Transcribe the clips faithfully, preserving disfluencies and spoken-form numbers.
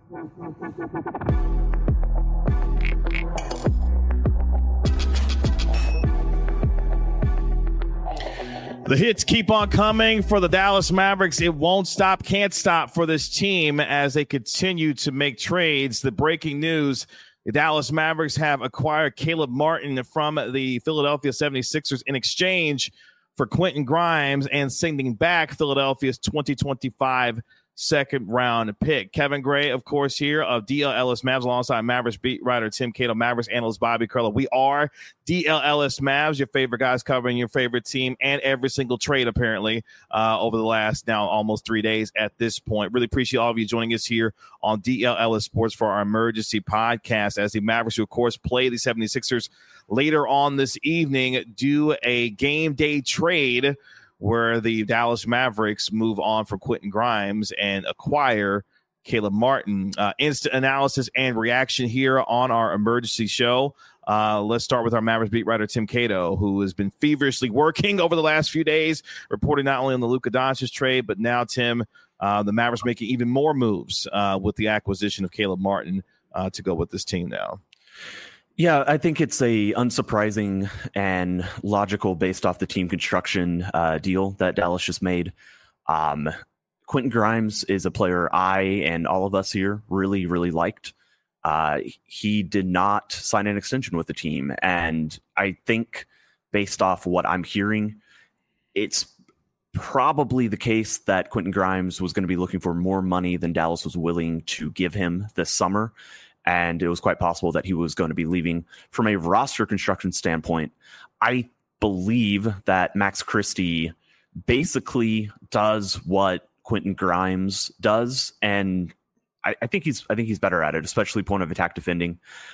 The hits keep on coming for the Dallas Mavericks. It won't stop, can't stop for this team as they continue to make trades. The breaking news, the Dallas Mavericks have acquired Caleb Martin from the Philadelphia seventy-sixers in exchange for Quentin Grimes and sending back Philadelphia's twenty twenty-five second round pick. Kevin Gray, of course, here of D L L S Mavs alongside Mavericks beat writer Tim Cato, Mavericks analyst Bobby Curlo. We are D L L S Mavs, your favorite guys covering your favorite team and every single trade, apparently, uh, over the last now almost three days at this point. Really appreciate all of you joining us here on D L L S Sports for our emergency podcast as the Mavericks, who, of course, play the seventy-sixers later on this evening, do a game day trade where the Dallas Mavericks move on from Quentin Grimes and acquire Caleb Martin. Uh, instant analysis and reaction here on our emergency show. Uh, let's start with our Mavericks beat writer, Tim Cato, who has been feverishly working over the last few days, reporting not only on the Luka Doncic trade, but now, Tim, uh, the Mavericks making even more moves uh, with the acquisition of Caleb Martin uh, to go with this team now. Yeah, I think it's a unsurprising and logical based off the team construction uh, deal that Dallas just made. Um, Quentin Grimes is a player I and all of us here really, really liked. Uh, he did not sign an extension with the team. And I think based off what I'm hearing, it's probably the case that Quentin Grimes was going to be looking for more money than Dallas was willing to give him this summer. And it was quite possible that he was going to be leaving. From a roster construction standpoint, I believe that Max Christie basically does what Quentin Grimes does, and I, I think he's I think he's better at it, especially point of attack defending.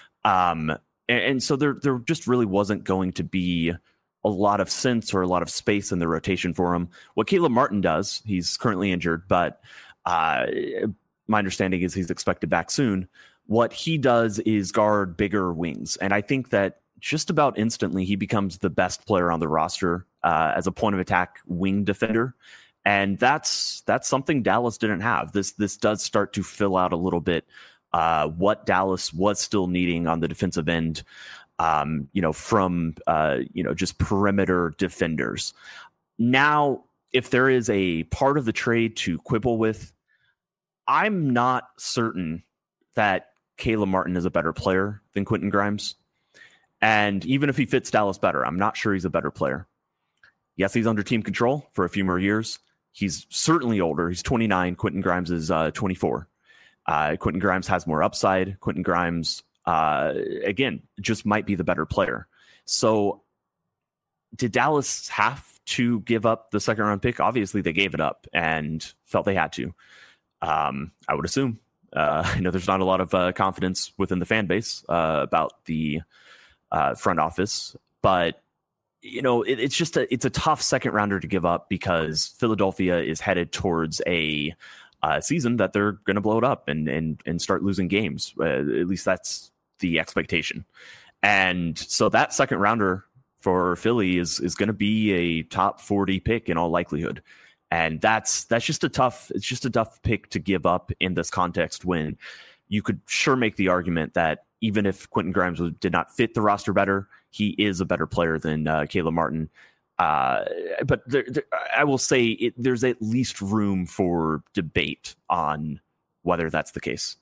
Um, and, and so there there just really wasn't going to be a lot of sense or a lot of space in the rotation for him. What Caleb Martin does, he's currently injured, but uh, my understanding is he's expected back soon. What he does is guard bigger wings. And I think that just about instantly he becomes the best player on the roster uh, as a point of attack wing defender. And that's that's something Dallas didn't have. This this does start to fill out a little bit uh, what Dallas was still needing on the defensive end, um, you know, from, uh, you know, just perimeter defenders. Now, if there is a part of the trade to quibble with, I'm not certain that Caleb Martin is a better player than Quentin Grimes. And even if he fits Dallas better, I'm not sure he's a better player. Yes, he's under team control for a few more years. He's certainly older. He's twenty-nine. Quentin Grimes is uh, twenty-four. Uh, Quentin Grimes has more upside. Quentin Grimes, uh, again, just might be the better player. So did Dallas have to give up the second round pick? Obviously, they gave it up and felt they had to. Um, I would assume. Uh, I know there's not a lot of uh, confidence within the fan base uh, about the uh, front office, but you know it, it's just a it's a tough second rounder to give up because Philadelphia is headed towards a uh, season that they're going to blow it up and and and start losing games. Uh, at least that's the expectation, and so that second rounder for Philly is is going to be a top forty pick in all likelihood. And that's that's just a tough it's just a tough pick to give up in this context when you could sure make the argument that even if Quentin Grimes did not fit the roster better, he is a better player than uh, Caleb Martin. Uh, but there, there, I will say it, there's at least room for debate on whether that's the case.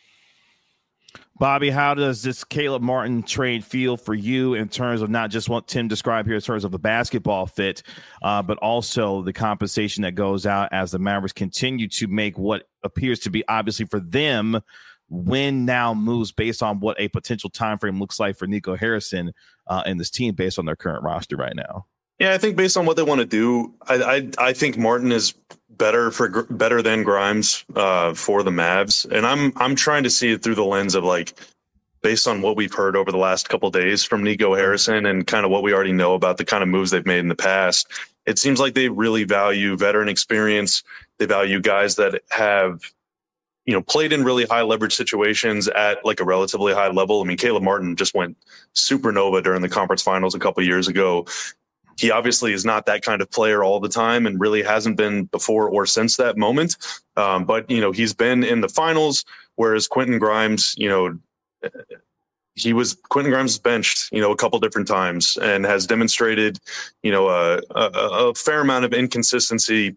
Bobby, how does this Caleb Martin trade feel for you in terms of not just what Tim described here in terms of a basketball fit, uh, but also the compensation that goes out as the Mavericks continue to make what appears to be obviously for them win now moves based on what a potential time frame looks like for Nico Harrison uh, and this team based on their current roster right now? Yeah, I think based on what they want to do, I I, I think Martin is better for better than Grimes uh, for the Mavs, and I'm I'm trying to see it through the lens of like based on what we've heard over the last couple of days from Nico Harrison and kind of what we already know about the kind of moves they've made in the past. It seems like they really value veteran experience. They value guys that have, you know, played in really high leverage situations at like a relatively high level. I mean, Caleb Martin just went supernova during the conference finals a couple of years ago. he obviously is not that kind of player all the time and really hasn't been before or since that moment. Um, but, you know, he's been in the finals, whereas Quentin Grimes, you know, he was Quentin Grimes is benched, you know, a couple different times and has demonstrated, you know, a, a, a fair amount of inconsistency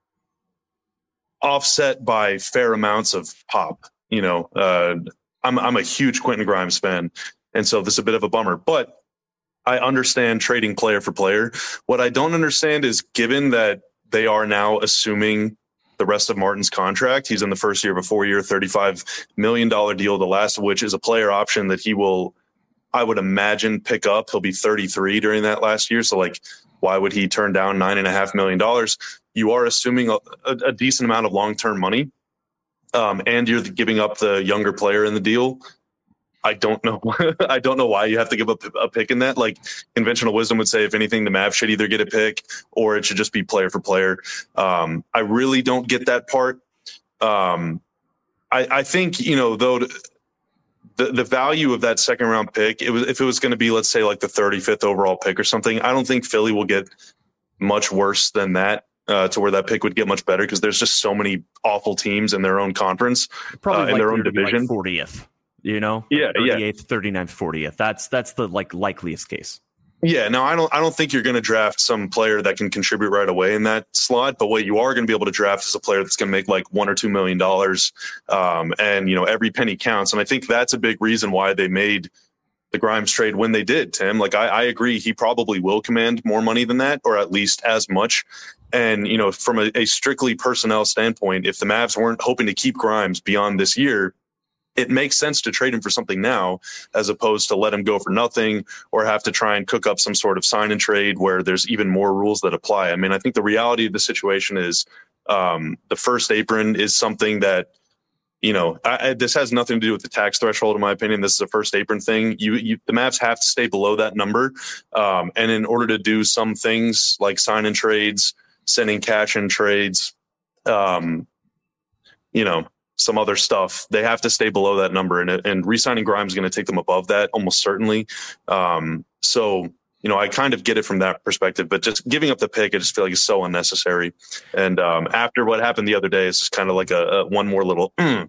offset by fair amounts of pop. You know, uh, I'm I'm a huge Quentin Grimes fan, and so this is a bit of a bummer. But I understand trading player for player. What I don't understand is, given that they are now assuming the rest of Martin's contract, he's in the first year of a four-year, thirty-five million dollars deal, the last of which is a player option that he will, I would imagine, pick up. He'll be thirty-three during that last year. So, like, why would he turn down nine point five million dollars? You are assuming a, a, a decent amount of long-term money, um, and you're giving up the younger player in the deal. I don't know. I don't know why you have to give up a pick in that. Like, conventional wisdom would say, if anything, the Mavs should either get a pick or it should just be player for player. Um, I really don't get that part. Um, I, I think, you know, though, the, the value of that second round pick, it was, if it was going to be, let's say, like the thirty-fifth overall pick or something, I don't think Philly will get much worse than that. Uh, to where that pick would get much better, because there's just so many awful teams in their own conference, probably uh, in their own division. Like fortieth, you know, yeah, thirty-eighth, yeah, thirty-ninth, fortieth. That's that's the like likeliest case. Yeah, no, I don't. I don't think you're going to draft some player that can contribute right away in that slot. But what you are going to be able to draft is a player that's going to make like one or two million dollars, um, and you know every penny counts. And I think that's a big reason why they made the Grimes trade when they did, Tim. Like, I, I agree, he probably will command more money than that, or at least as much. And, you know, from a, a strictly personnel standpoint, if the Mavs weren't hoping to keep Grimes beyond this year, it makes sense to trade him for something now, as opposed to let him go for nothing or have to try and cook up some sort of sign and trade where there's even more rules that apply. I mean, I think the reality of the situation is um, the first apron is something that, you know, I, I, this has nothing to do with the tax threshold, in my opinion. This is a first apron thing. You, you the Mavs have to stay below that number. Um, and in order to do some things like sign and trades, sending cash in trades, um, you know, some other stuff, they have to stay below that number. And, and re-signing Grimes is going to take them above that, almost certainly. Um, so, you know, I kind of get it from that perspective, but just giving up the pick, I just feel like it's so unnecessary. And um, after what happened the other day, it's just kind of like a, a one more little. Mm.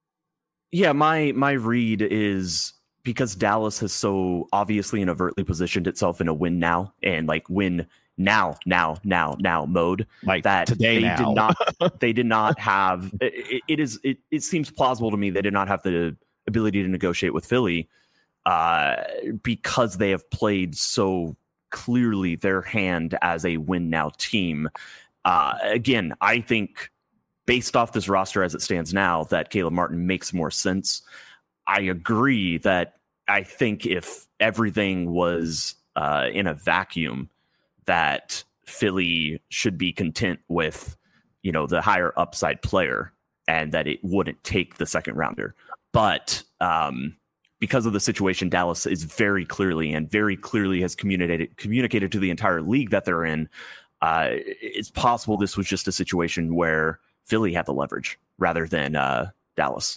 Yeah, my my read is, because Dallas has so obviously and overtly positioned itself in a win now and like win now, now, now, now mode, like that today they now. did not they did not have it, it is it, it seems plausible to me they did not have the ability to negotiate with Philly uh, because they have played so clearly their hand as a win now team. Uh, again, I think based off this roster as it stands now, that Caleb Martin makes more sense. I agree that I think if everything was uh, in a vacuum, that Philly should be content with, you know, the higher upside player and that it wouldn't take the second rounder. But um, because of the situation, Dallas is very clearly and very clearly has communicated communicated to the entire league that they're in. Uh, it's possible this was just a situation where Philly had the leverage rather than uh, Dallas.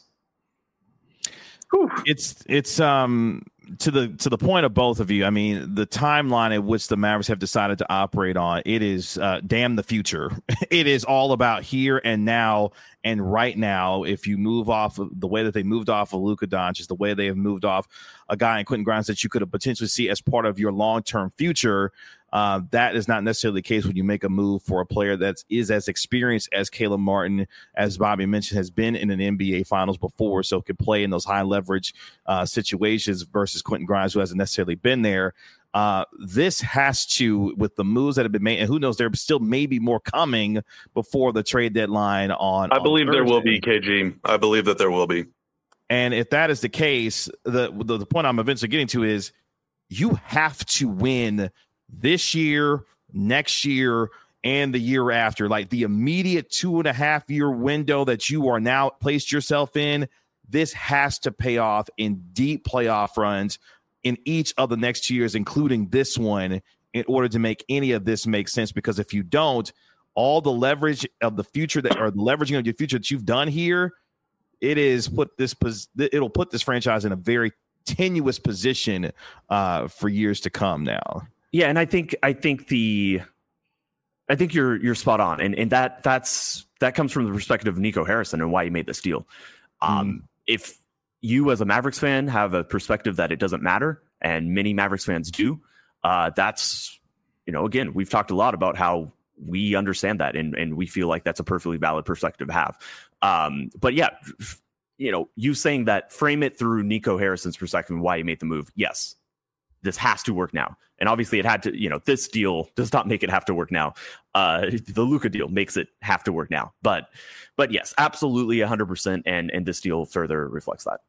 Whew. It's it's um to the to the point of both of you. I mean, the timeline at which the Mavericks have decided to operate on, it is uh, damn the future. It is all about here and now and right now. If you move off of the way that they moved off of Luka Doncic, the way they have moved off a guy in Quentin Grimes that you could have potentially see as part of your long term future. Uh, that is not necessarily the case when you make a move for a player that is as experienced as Caleb Martin, as Bobby mentioned, has been in an N B A Finals before, so could play in those high leverage uh, situations versus Quentin Grimes, who hasn't necessarily been there. Uh, this has to, with the moves that have been made, and who knows, there still may be more coming before the trade deadline on. I believe on there will be, K G. I believe that there will be. And if that is the case, the the, the point I'm eventually getting to is you have to win this year, next year, and the year after. Like the immediate two and a half year window that you are now placed yourself in, this has to pay off in deep playoff runs in each of the next two years, including this one, in order to make any of this make sense. Because if you don't, all the leverage of the future that, or the leveraging of your future that you've done here, it is put this, it'll put this franchise in a very tenuous position uh, for years to come now. Yeah, and I think I think the I think you're you're spot on, and and that that's that comes from the perspective of Nico Harrison and why he made this deal. Um, mm. If you as a Mavericks fan have a perspective that it doesn't matter, and many Mavericks fans do, uh, that's, you know, again, we've talked a lot about how we understand that, and and we feel like that's a perfectly valid perspective to have. Um, but yeah, you know, you saying that, frame it through Nico Harrison's perspective and why he made the move. Yes, this has to work now. And obviously it had to, you know, this deal does not make it have to work now. Uh, the Luka deal makes it have to work now. But, but yes, absolutely one hundred percent. And, and this deal further reflects that.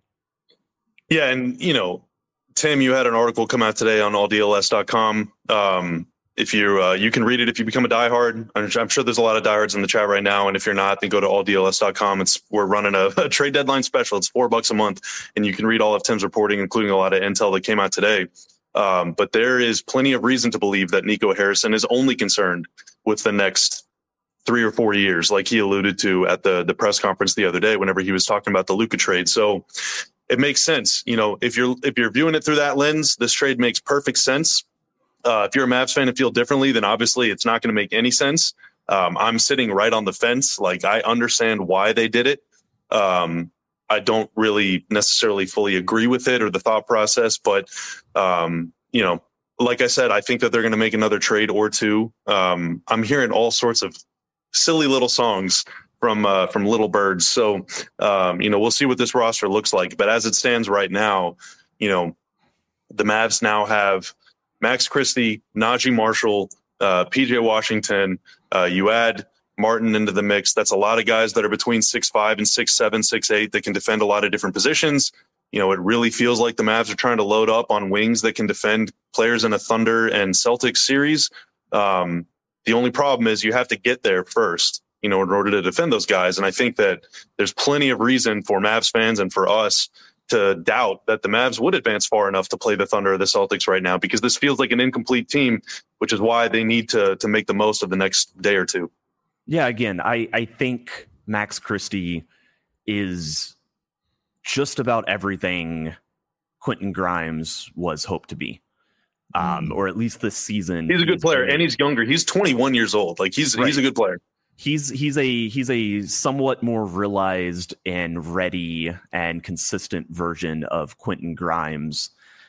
Yeah. And, you know, Tim, you had an article come out today on all D L S dot com. Um, if you, uh, you can read it if you become a diehard. I'm, I'm sure there's a lot of diehards in the chat right now. And if you're not, then go to all D L S dot com. It's, we're running a, a trade deadline special. It's four bucks a month, and you can read all of Tim's reporting, including a lot of intel that came out today. Um, but there is plenty of reason to believe that Nico Harrison is only concerned with the next three or four years, like he alluded to at the, the press conference the other day, whenever he was talking about the Luka trade. So it makes sense. You know, if you're, if you're viewing it through that lens, this trade makes perfect sense. Uh, if you're a Mavs fan and feel differently, then obviously it's not going to make any sense. Um, I'm sitting right on the fence. Like, I understand why they did it. Um, I don't really necessarily fully agree with it or the thought process, but, um, you know, like I said, I think that they're going to make another trade or two. Um, I'm hearing all sorts of silly little songs from, uh, from Little Birds. So, um, you know, we'll see what this roster looks like, but as it stands right now, you know, the Mavs now have Max Christie, Najee Marshall, uh, P J Washington. Uh, you add Martin into the mix. That's a lot of guys that are between six five and six seven, six eight that can defend a lot of different positions. You know, it really feels like the Mavs are trying to load up on wings that can defend players in a Thunder and Celtics series. Um, the only problem is you have to get there first, you know, in order to defend those guys. And I think that there's plenty of reason for Mavs fans and for us to doubt that the Mavs would advance far enough to play the Thunder or the Celtics right now, because this feels like an incomplete team, which is why they need to to make the most of the next day or two. Yeah, again, I, I think Max Christie is just about everything Quentin Grimes was hoped to be, um, mm. or at least this season. He's a good player, been, and he's younger. He's twenty-one years old. Like he's right. he's a good player. He's he's a he's a somewhat more realized and ready and consistent version of Quentin Grimes.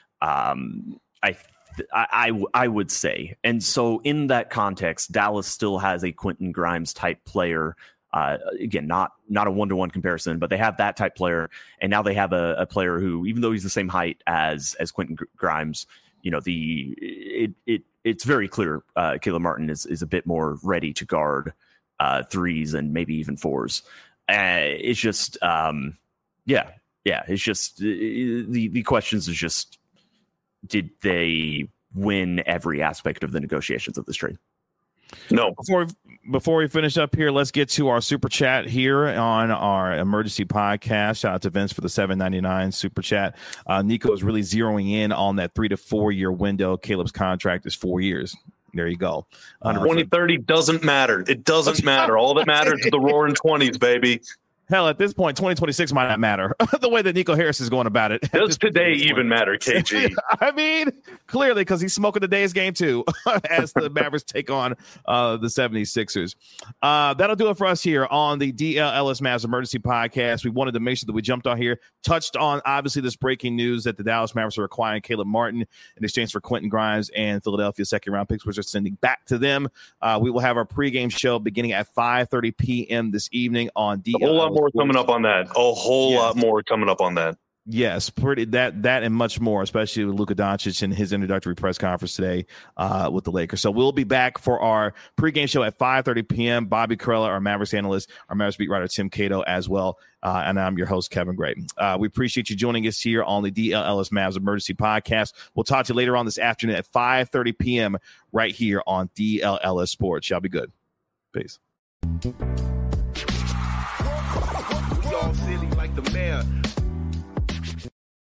Um, I. I, I would say. And so in that context, Dallas still has a Quentin Grimes type player. Uh, again, not not a one-to-one comparison, but they have that type player. And now they have a, a player who, even though he's the same height as as Quentin Grimes, you know, the it it it's very clear uh, Caleb Martin is is a bit more ready to guard uh, threes and maybe even fours. Uh, it's just, um, yeah, yeah. It's just the the questions is just, did they win every aspect of the negotiations of this trade? No. Before before we finish up here, let's get to our super chat here on our emergency podcast. Shout out to Vince for the seven ninety-nine super chat. Uh, Nico is really zeroing in on that three to four year window. Caleb's contract is four years. There you go. Uh, twenty thirty doesn't matter. It doesn't matter. All that matters is the roaring twenties, baby. Hell, at this point, twenty twenty-six might not matter. The way that Nico Harris is going about it. Does today even matter, K G? I mean, clearly, because he's smoking today's game, too, as the Mavericks take on uh, the seventy-sixers. Uh, that'll do it for us here on the D L Ellis Mavs Emergency Podcast. We wanted to make sure that we jumped on here, touched on, obviously, this breaking news that the Dallas Mavericks are acquiring Caleb Martin in exchange for Quentin Grimes and Philadelphia second-round picks, which are sending back to them. Uh, we will have our pregame show beginning at five thirty p.m. this evening on D L Ellis. A whole lot more coming up on that. A whole yes. lot more coming up on that. Yes, pretty that that and much more, especially with Luka Doncic and his introductory press conference today uh, with the Lakers. So we'll be back for our pregame show at five thirty p.m. Bobby Carella, our Mavericks analyst, our Mavericks beat writer Tim Cato as well, uh, and I'm your host Kevin Gray. Uh, we appreciate you joining us here on the D L Ellis Mavs Emergency Podcast. We'll talk to you later on this afternoon at five thirty p.m. right here on D L Ellis Sports. Y'all be good. Peace. Silly like the mayor.